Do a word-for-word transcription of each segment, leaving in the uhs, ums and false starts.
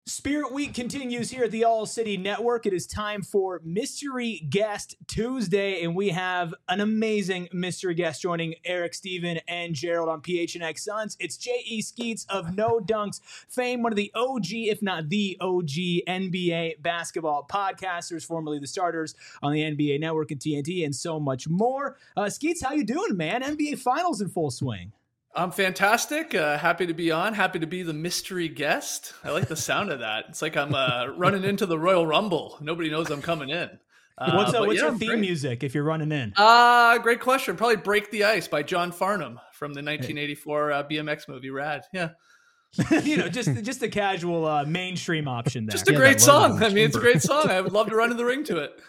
Spirit Week continues here at the All City Network. It is time for Mystery Guest Tuesday, and we have an amazing mystery guest joining Eric, Steven, and Gerald on P H N X Suns. It's J E. Skeets of No Dunks fame, one of the O G, if not the O G, N B A basketball podcasters, formerly the starters on the N B A Network and T N T, and so much more. Uh, Skeets, how you doing, man? N B A Finals in full swing. I'm fantastic. Uh, happy to be on. Happy to be the mystery guest. I like the sound of that. It's like I'm uh, running into the Royal Rumble. Nobody knows I'm coming in. Uh, what's uh, what's yeah, your theme great. music if you're running in? Uh, great question. Probably Break the Ice by John Farnham from the nineteen eighty-four uh, B M X movie Rad. Yeah. you know, just just a casual uh, mainstream option there. Just a yeah, great song. I mean, it's a great song. I would love to run in the ring to it.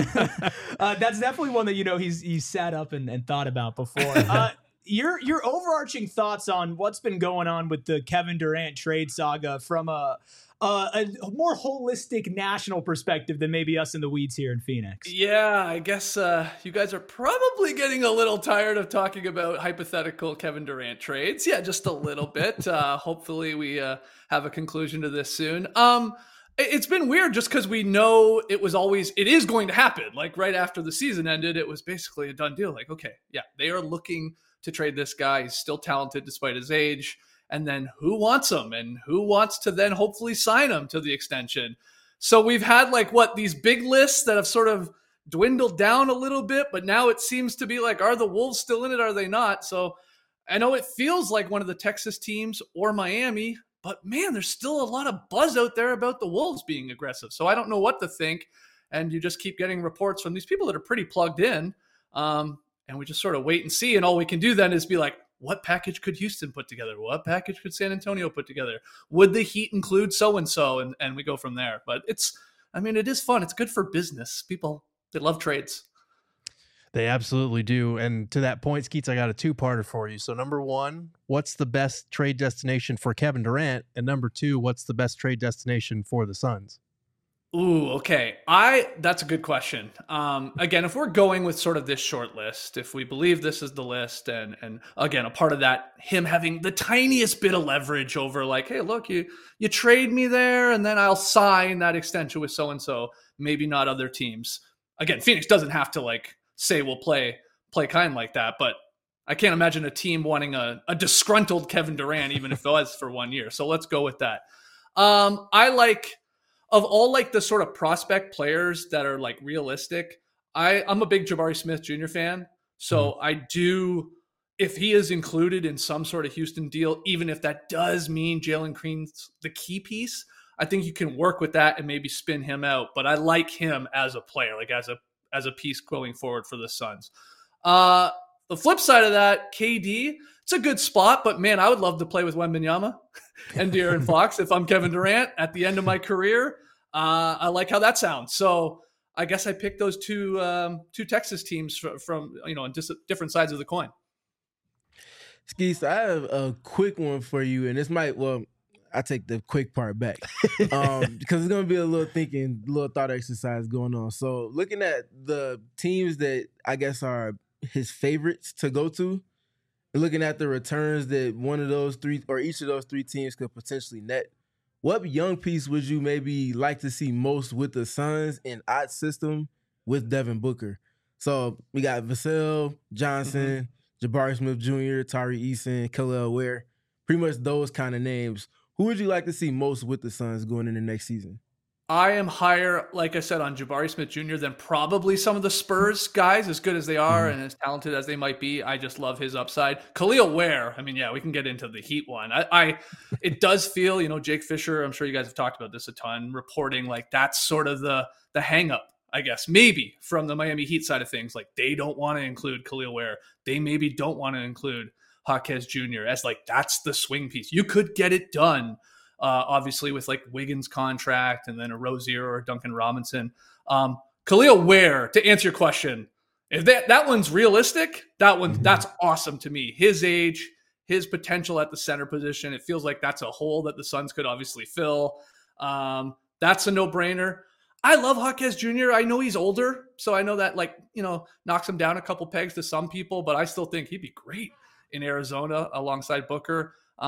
uh, that's definitely one that, you know, he's he's sat up and, and thought about before. Uh, Your your overarching thoughts on what's been going on with the Kevin Durant trade saga from a, a a more holistic national perspective than maybe us in the weeds here in Phoenix. Yeah, I guess uh, you guys are probably getting a little tired of talking about hypothetical Kevin Durant trades. Yeah, just a little bit. Uh, hopefully we uh, have a conclusion to this soon. Um, it's been weird just because we know it was always, it is going to happen. Like right after the season ended, it was basically a done deal. Like, okay, yeah, they are looking to trade this guy. He's still talented despite his age. And then who wants him and who wants to then hopefully sign him to the extension? So we've had like what these big lists that have sort of dwindled down a little bit, but now it seems to be like, are the Wolves still in it? Are they not? So I know it feels like one of the Texas teams or Miami, but man, there's still a lot of buzz out there about the Wolves being aggressive. So I don't know what to think. And you just keep getting reports from these people that are pretty plugged in. Um, And we just sort of wait and see. And all we can do then is be like, what package could Houston put together? What package could San Antonio put together? Would the Heat include so-and-so? And, and we go from there. But it's, I mean, it is fun. It's good for business. People, they love trades. They absolutely do. And to that point, Skeets, I got a two-parter for you. So number one, what's the best trade destination for Kevin Durant? And number two, what's the best trade destination for the Suns? Ooh, okay. I that's a good question. Um, again, if we're going with sort of this short list, if we believe this is the list, and and again, a part of that, him having the tiniest bit of leverage over like, hey, look, you you trade me there, and then I'll sign that extension with so and so. Maybe not other teams. Again, Phoenix doesn't have to like say we'll play play kind like that, but I can't imagine a team wanting a, a disgruntled Kevin Durant, even if it was for one year. So let's go with that. Um, I like. Of all like the sort of prospect players that are like realistic, I, I'm a big Jabari Smith Junior fan. So mm-hmm. I do, if he is included in some sort of Houston deal, even if that does mean Jalen Green's the key piece, I think you can work with that and maybe spin him out. But I like him as a player, like as a as a piece going forward for the Suns. Uh, the flip side of that, K D, it's a good spot, but man, I would love to play with Wembanyama and De'Aaron Fox if I'm Kevin Durant at the end of my career. Uh, I like how that sounds. So I guess I picked those two um, two Texas teams from, from you know on just different sides of the coin. Skeets, I have a quick one for you, and this might well I take the quick part back um, because it's gonna be a little thinking, little thought exercise going on. So looking at the teams that I guess are his favorites to go to, looking at the returns that one of those three or each of those three teams could potentially net, what young piece would you maybe like to see most with the Suns in odd system with Devin Booker? So we got Vassell, Johnson, mm-hmm. Jabari Smith Junior, Tari Eason, Kel'el Ware, pretty much those kind of names. Who would you like to see most with the Suns going into next season? I am higher, like I said, on Jabari Smith Junior than probably some of the Spurs guys, as good as they are mm-hmm. and as talented as they might be. I just love his upside. Kel'el Ware, I mean, yeah, we can get into the Heat one. I, I, it does feel, you know, Jake Fisher, I'm sure you guys have talked about this a ton, reporting like that's sort of the the hang up, I guess, maybe from the Miami Heat side of things. Like they don't want to include Kel'el Ware. They maybe don't want to include Jaquez Junior as like that's the swing piece. You could get it done. Uh, obviously with like Wiggins contract and then a Rozier or a Duncan Robinson. Um, Kel'el Ware, to answer your question, if that, that one's realistic, that one, mm-hmm. that's awesome to me. His age, his potential at the center position, it feels like that's a hole that the Suns could obviously fill. Um, that's a no-brainer. I love Jaquez Junior I know he's older, so I know that like, you know, knocks him down a couple pegs to some people, but I still think he'd be great in Arizona alongside Booker. Um,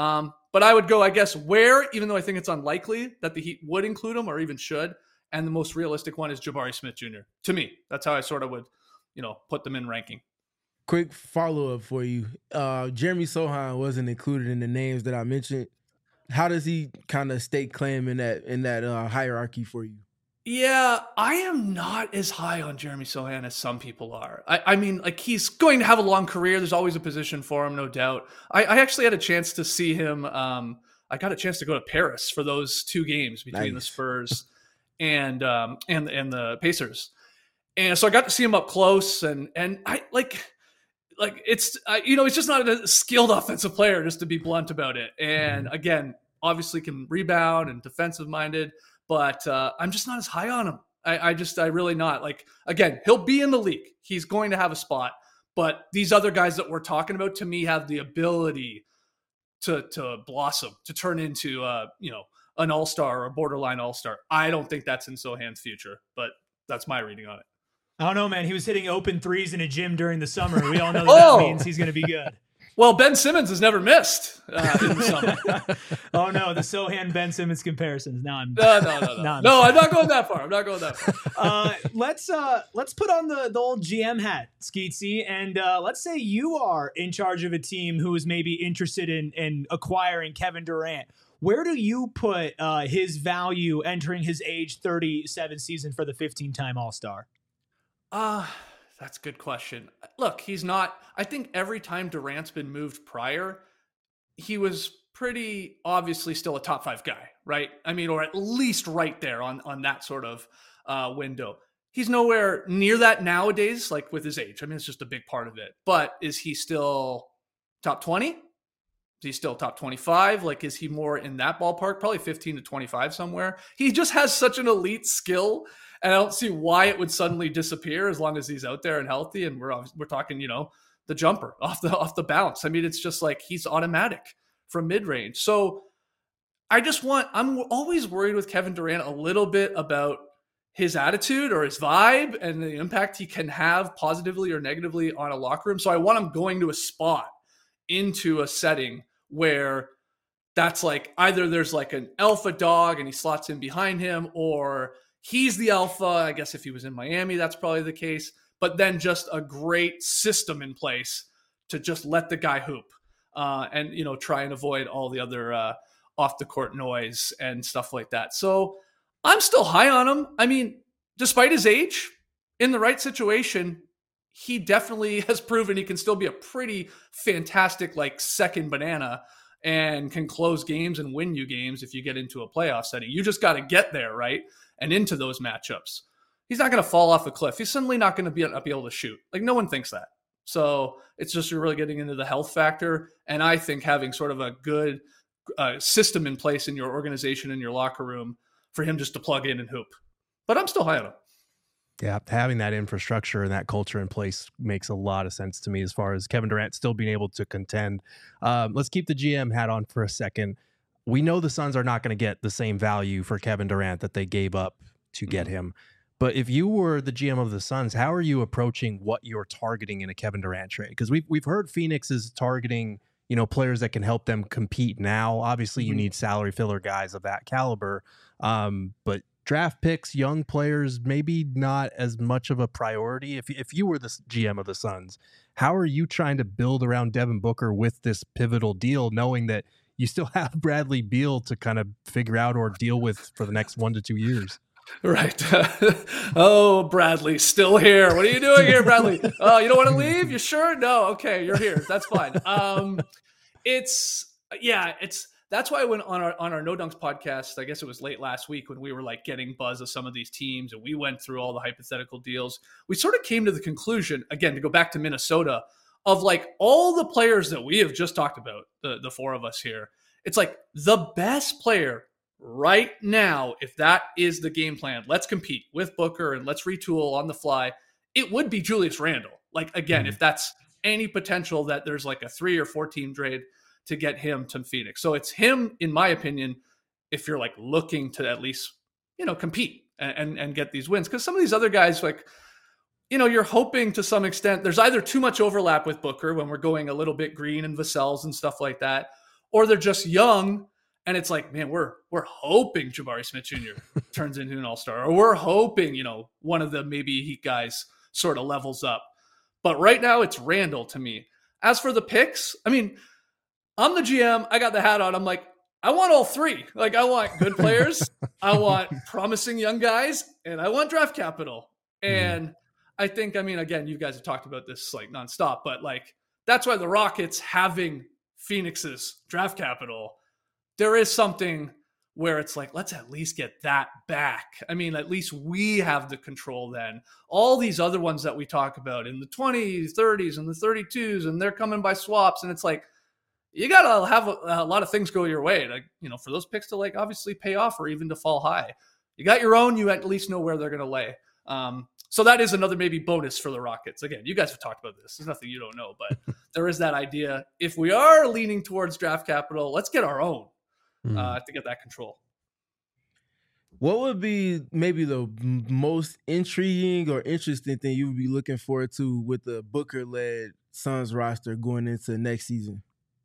but I would go, I guess, where, even though I think it's unlikely that the Heat would include him or even should. And the most realistic one is Jabari Smith Junior To me, that's how I sort of would, you know, put them in ranking. Quick follow-up for you. Uh, Jeremy Sochan wasn't included in the names that I mentioned. How does he kind of stake claim in that in that uh, hierarchy for you? Yeah, I am not as high on Jeremy Sochan as some people are. I, I mean, like, he's going to have a long career. There's always a position for him, no doubt. I, I actually had a chance to see him. Um, I got a chance to go to Paris for those two games between nice. the Spurs and um, and and the Pacers, and so I got to see him up close. And and I like. Like it's, uh, you know, he's just not a skilled offensive player, just to be blunt about it. And again, obviously can rebound and defensive minded, but uh, I'm just not as high on him. I, I just, I really not. Like, again, he'll be in the league. He's going to have a spot. But these other guys that we're talking about, to me, have the ability to to blossom, to turn into, uh, you know, an all-star or a borderline all-star. I don't think that's in Sochan's future, but that's my reading on it. I don't know, man. He was hitting open threes in a gym during the summer. We all know that, oh! that means he's going to be good. Well, Ben Simmons has never missed uh, in the summer. Oh, no. The Sochan Ben Simmons comparisons. Now I'm no, no, no, no. no, no I'm not going that far. I'm not going that far. uh, let's uh, let's put on the, the old G M hat, Skeetsy, and uh, let's say you are in charge of a team who is maybe interested in, in acquiring Kevin Durant. Where do you put uh, his value entering his age thirty-seven season for the fifteen-time All-Star? Uh, that's a good question. Look, he's not, I think every time Durant's been moved prior, he was pretty obviously still a top five guy, right? I mean, or at least right there on, on that sort of uh, window. He's nowhere near that nowadays, like with his age. I mean, it's just a big part of it. But is he still top twenty? Is he still top twenty-five? Like, is he more in that ballpark? Probably fifteen to twenty-five somewhere. He just has such an elite skill. And I don't see why it would suddenly disappear as long as he's out there and healthy. And we're we're talking, you know, the jumper off the off the bounce. I mean, it's just like he's automatic from mid range. So I just want. I'm always worried with Kevin Durant a little bit about his attitude or his vibe and the impact he can have positively or negatively on a locker room. So I want him going to a spot into a setting where that's like either there's like an alpha dog and he slots in behind him, or he's the alpha. I guess if he was in Miami, that's probably the case. But then just a great system in place to just let the guy hoop uh, and, you know, try and avoid all the other uh, off the court noise and stuff like that. So I'm still high on him. I mean, despite his age, in the right situation, he definitely has proven he can still be a pretty fantastic, like, second banana and can close games and win you games if you get into a playoff setting. You just got to get there, right? And into those matchups. He's not going to fall off a cliff. He's suddenly not going to be, be able to shoot. Like, no one thinks that. So it's just you're really getting into the health factor. And I think having sort of a good uh, system in place in your organization, in your locker room, for him just to plug in and hoop. But I'm still high on him. Yeah, having that infrastructure and that culture in place makes a lot of sense to me as far as Kevin Durant still being able to contend. Um, let's keep the G M hat on for a second. We know the Suns are not going to get the same value for Kevin Durant that they gave up to get mm-hmm. him. But if you were the G M of the Suns, how are you approaching what you're targeting in a Kevin Durant trade? Because we've, we've heard Phoenix is targeting, you know, players that can help them compete now. Obviously, you mm-hmm. need salary filler guys of that caliber. Um, but draft picks, young players, maybe not as much of a priority. If, if you were the G M of the Suns, how are you trying to build around Devin Booker with this pivotal deal, knowing that you still have Bradley Beal to kind of figure out or deal with for the next one to two years? Right. Oh, Bradley, still here. What are you doing here, Bradley? Oh, you don't want to leave? You sure? No. Okay, you're here. That's fine. Um, it's yeah. It's that's why when on our on our No Dunks podcast, I guess it was late last week when we were like getting buzz of some of these teams and we went through all the hypothetical deals. We sort of came to the conclusion again to go back to Minnesota of like all the players that we have just talked about, the the four of us here. It's like the best player right now, if that is the game plan, let's compete with Booker and let's retool on the fly, it would be Julius Randle. Like, again, mm-hmm. if that's any potential that there's like a three or four team trade to get him to Phoenix. So it's him, in my opinion, if you're like looking to at least, you know, compete and, and, and get these wins. Because some of these other guys, like, you know, you're hoping to some extent, there's either too much overlap with Booker when we're going a little bit green and Vassell's and stuff like that, or they're just young. And it's like, man, we're we're hoping Jabari Smith Junior turns into an all-star, or we're hoping, you know, one of the maybe Heat guys sort of levels up. But right now it's Randall to me. As for the picks, I mean, I'm the G M. I got the hat on. I'm like, I want all three. Like, I want good players, I want promising young guys, and I want draft capital. And mm. I think, I mean, again, you guys have talked about this like nonstop, but like that's why the Rockets having Phoenix's draft capital, there is something where it's like, let's at least get that back. I mean, at least we have the control then. All these other ones that we talk about in the twenties, thirties, and the thirty-twos, and they're coming by swaps. And it's like, you got to have a, a lot of things go your way, like, you know, for those picks to like obviously pay off or even to fall high. You got your own, you at least know where they're going to lay. Um, so that is another maybe bonus for the Rockets. Again, you guys have talked about this. There's nothing you don't know, but there is that idea. If we are leaning towards draft capital, let's get our own. Uh, to get that control. What would be maybe the most intriguing or interesting thing you would be looking forward to with the Booker-led Suns roster going into next season?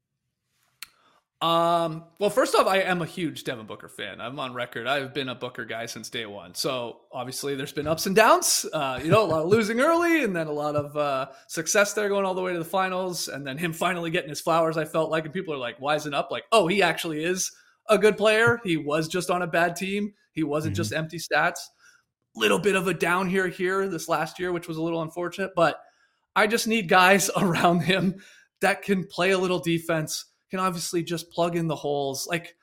Um, well, first off, I am a huge Devin Booker fan. I'm on record. I've been a Booker guy since day one. So obviously there's been ups and downs, uh, you know, a lot of losing early and then a lot of uh, success there going all the way to the finals. And then him finally getting his flowers, I felt like, and people are like, wising up, like, oh, he actually is a good player. He was just on a bad team. He wasn't mm-hmm. just empty stats. Little bit of a down here, here this last year, which was a little unfortunate, but I just need guys around him that can play a little defense, can obviously just plug in the holes. Like,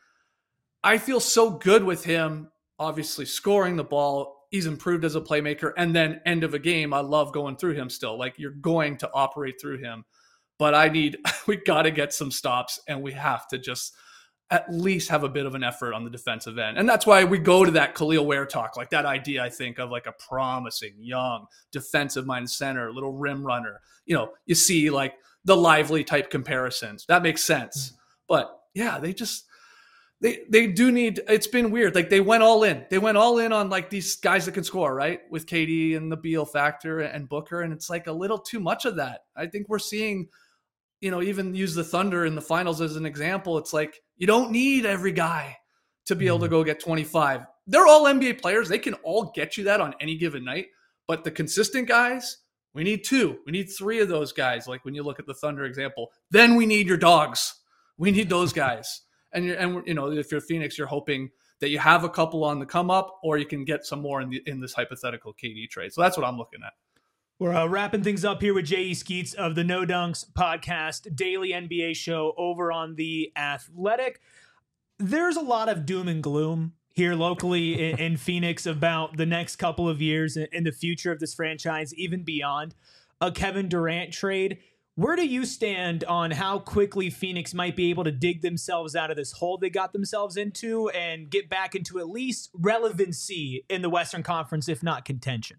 I feel so good with him, obviously scoring the ball. He's improved as a playmaker. And then end of a game, I love going through him still. Like, you're going to operate through him. But I need, we got to get some stops, and we have to just at least have a bit of an effort on the defensive end. And that's why we go to that Khalil Ware talk, like that idea, I think, of like a promising, young, defensive-minded center, little rim runner. You know, you see like the Lively type comparisons. That makes sense. But yeah, they just, they they do need, it's been weird. Like, they went all in. They went all in on like these guys that can score, right? With K D and the Beal factor and Booker. And it's like a little too much of that. I think we're seeing, you know, even use the Thunder in the finals as an example. It's like, you don't need every guy to be able to go get twenty-five. They're all N B A players. They can all get you that on any given night. But the consistent guys, we need two. We need three of those guys. Like when you look at the Thunder example, then we need your dogs. We need those guys. And, you're, and you know, if you're Phoenix, you're hoping that you have a couple on the come up, or you can get some more in the in this hypothetical K D trade. So that's what I'm looking at. We're uh, wrapping things up here with J E. Skeets of the No Dunks podcast, daily N B A show over on The Athletic. There's a lot of doom and gloom here locally in, in Phoenix about the next couple of years and the future of this franchise, even beyond a Kevin Durant trade. Where do you stand on how quickly Phoenix might be able to dig themselves out of this hole they got themselves into and get back into at least relevancy in the Western Conference, if not contention?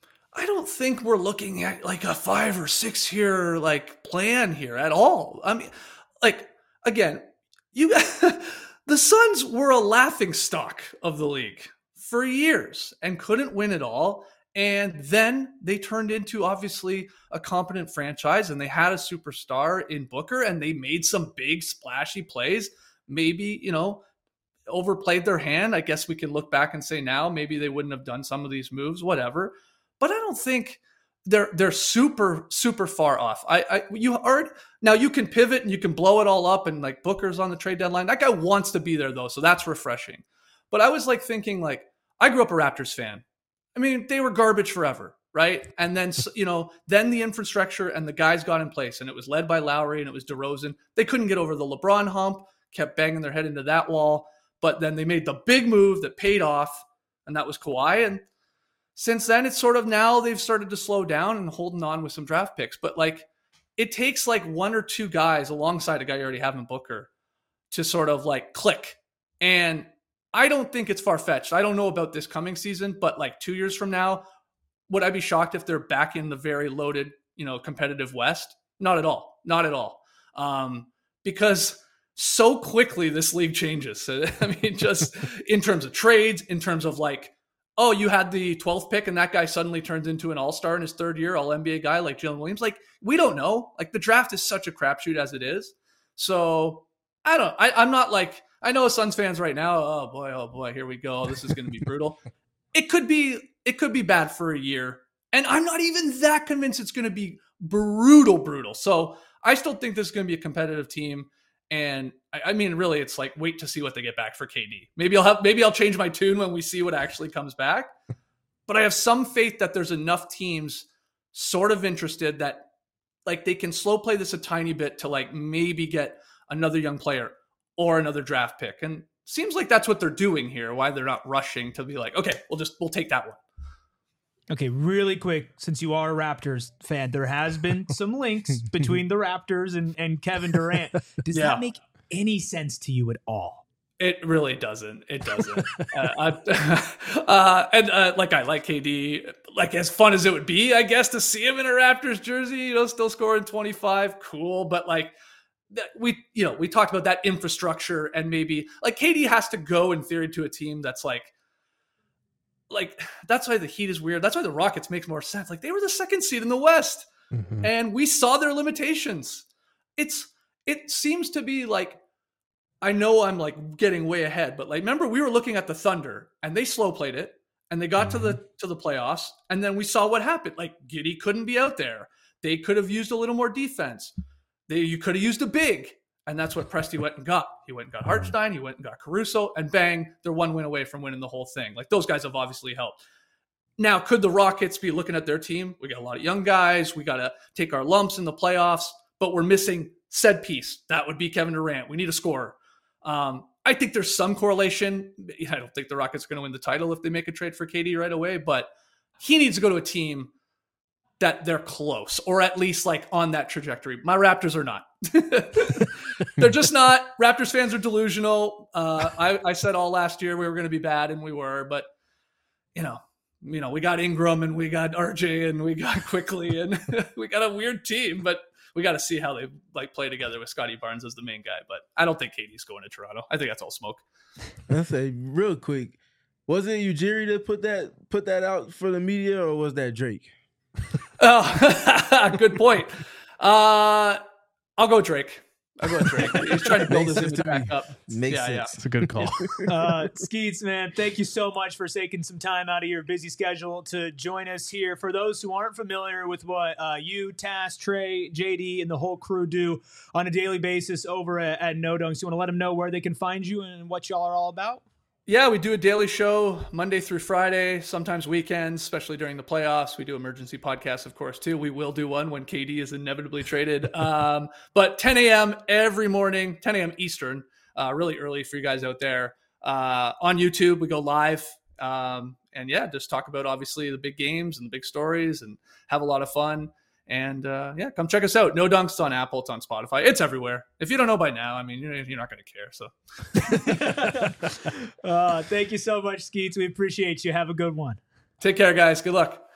I don't think we're looking at like a five or six year like plan here at all. I mean, like, again, you the Suns were a laughing stock of the league for years and couldn't win it all. And then they turned into obviously a competent franchise, and they had a superstar in Booker, and they made some big splashy plays. Maybe, you know, overplayed their hand. I guess we can look back and say now maybe they wouldn't have done some of these moves, whatever. But I don't think they're they're super super far off. I, I you heard now you can pivot and you can blow it all up, and like Booker's on the trade deadline. That guy wants to be there though, so that's refreshing. But I was like thinking, like, I grew up a Raptors fan. I mean, they were garbage forever, right? And then you know, then the infrastructure and the guys got in place, and it was led by Lowry and it was DeRozan. They couldn't get over the LeBron hump, kept banging their head into that wall. But then they made the big move that paid off, and that was Kawhi. And since then, it's sort of now they've started to slow down and holding on with some draft picks. But like, it takes like one or two guys alongside a guy you already have in Booker to sort of like click. And I don't think it's far-fetched. I don't know about this coming season, but like two years from now, would I be shocked if they're back in the very loaded, you know, competitive West? Not at all. Not at all. Um, because so quickly this league changes. I mean, just in terms of trades, in terms of like, oh, you had the twelfth pick and that guy suddenly turns into an all-star in his third year, all N B A guy like Jalen Williams. Like, we don't know. Like, the draft is such a crapshoot as it is. So I don't, I, I'm not like, I know Suns fans right now, oh boy, oh boy, here we go. This is going to be brutal. It could be, it could be bad for a year. And I'm not even that convinced it's going to be brutal, brutal. So I still think this is going to be a competitive team. And I, I mean, really, it's like, wait to see what they get back for K D. Maybe I'll have, maybe I'll change my tune when we see what actually comes back. But I have some faith that there's enough teams sort of interested that like they can slow play this a tiny bit to like maybe get another young player or another draft pick. And seems like that's what they're doing here. Why they're not rushing to be like, okay, we'll just, we'll take that one. Okay, really quick, since you are a Raptors fan, there has been some links between the Raptors and, and Kevin Durant. Does Yeah. that make any sense to you at all? It really doesn't. It doesn't. uh, I, uh, and uh, like I like K D, like as fun as it would be, I guess, to see him in a Raptors jersey, you know, still scoring twenty-five, cool. But like that, we, you know, we talked about that infrastructure and maybe like K D has to go in theory to a team that's like, like that's why the Heat is weird. That's why the Rockets makes more sense. Like they were the second seed in the West, Mhm. and we saw their limitations. It's it seems to be like. I know I'm like getting way ahead, but like, remember we were looking at the Thunder and they slow played it and they got Mhm. to the, to the playoffs. And then we saw what happened. Like Giddey couldn't be out there. They could have used a little more defense. They, you could have used a big, and that's what Presti went and got. He went and got Hartenstein. He went and got Caruso, and bang, they're one win away from winning the whole thing. Like those guys have obviously helped. Now, could the Rockets be looking at their team? We got a lot of young guys. We got to take our lumps in the playoffs, but we're missing said piece. That would be Kevin Durant. We need a scorer. Um, I think there's some correlation. I don't think the Rockets are going to win the title if they make a trade for K D right away, but he needs to go to a team that they're close or at least like on that trajectory. My Raptors are not. They're just not. Raptors fans are delusional. Uh, I, I said all last year we were going to be bad, and we were, but you know, you know, we got Ingram and we got R J and we got Quickly and we got a weird team, but we got to see how they like play together with Scotty Barnes as the main guy. But I don't think K D's going to Toronto. I think that's all smoke. I say real quick, was it Ujiri that put that put that out for the media, or was that Drake? Oh, good point. Uh, I'll go Drake. I'll go Drake. He's trying to build Makes his sense image to back me. up. Makes Yeah, yeah. sense. It's a good call. Uh, Skeets, man, thank you so much for taking some time out of your busy schedule to join us here. For those who aren't familiar with what uh, you, Tass, Trey, J D, and the whole crew do on a daily basis over at, at No Dunks, you want to let them know where they can find you and what y'all are all about? Yeah, we do a daily show Monday through Friday, sometimes weekends, especially during the playoffs. We do emergency podcasts, of course, too. We will do one when K D is inevitably traded. Um, but ten a.m. every morning, ten a.m. Eastern, uh, really early for you guys out there. Uh, on YouTube, we go live. Um, and yeah, just talk about obviously the big games and the big stories and have a lot of fun. And uh, yeah, come check us out. No Dunks, it's on Apple, it's on Spotify, it's everywhere. If you don't know by now, I mean, you're, you're not going to care. So uh, thank you so much, Skeets. We appreciate you. Have a good one. take care, guys. Good luck.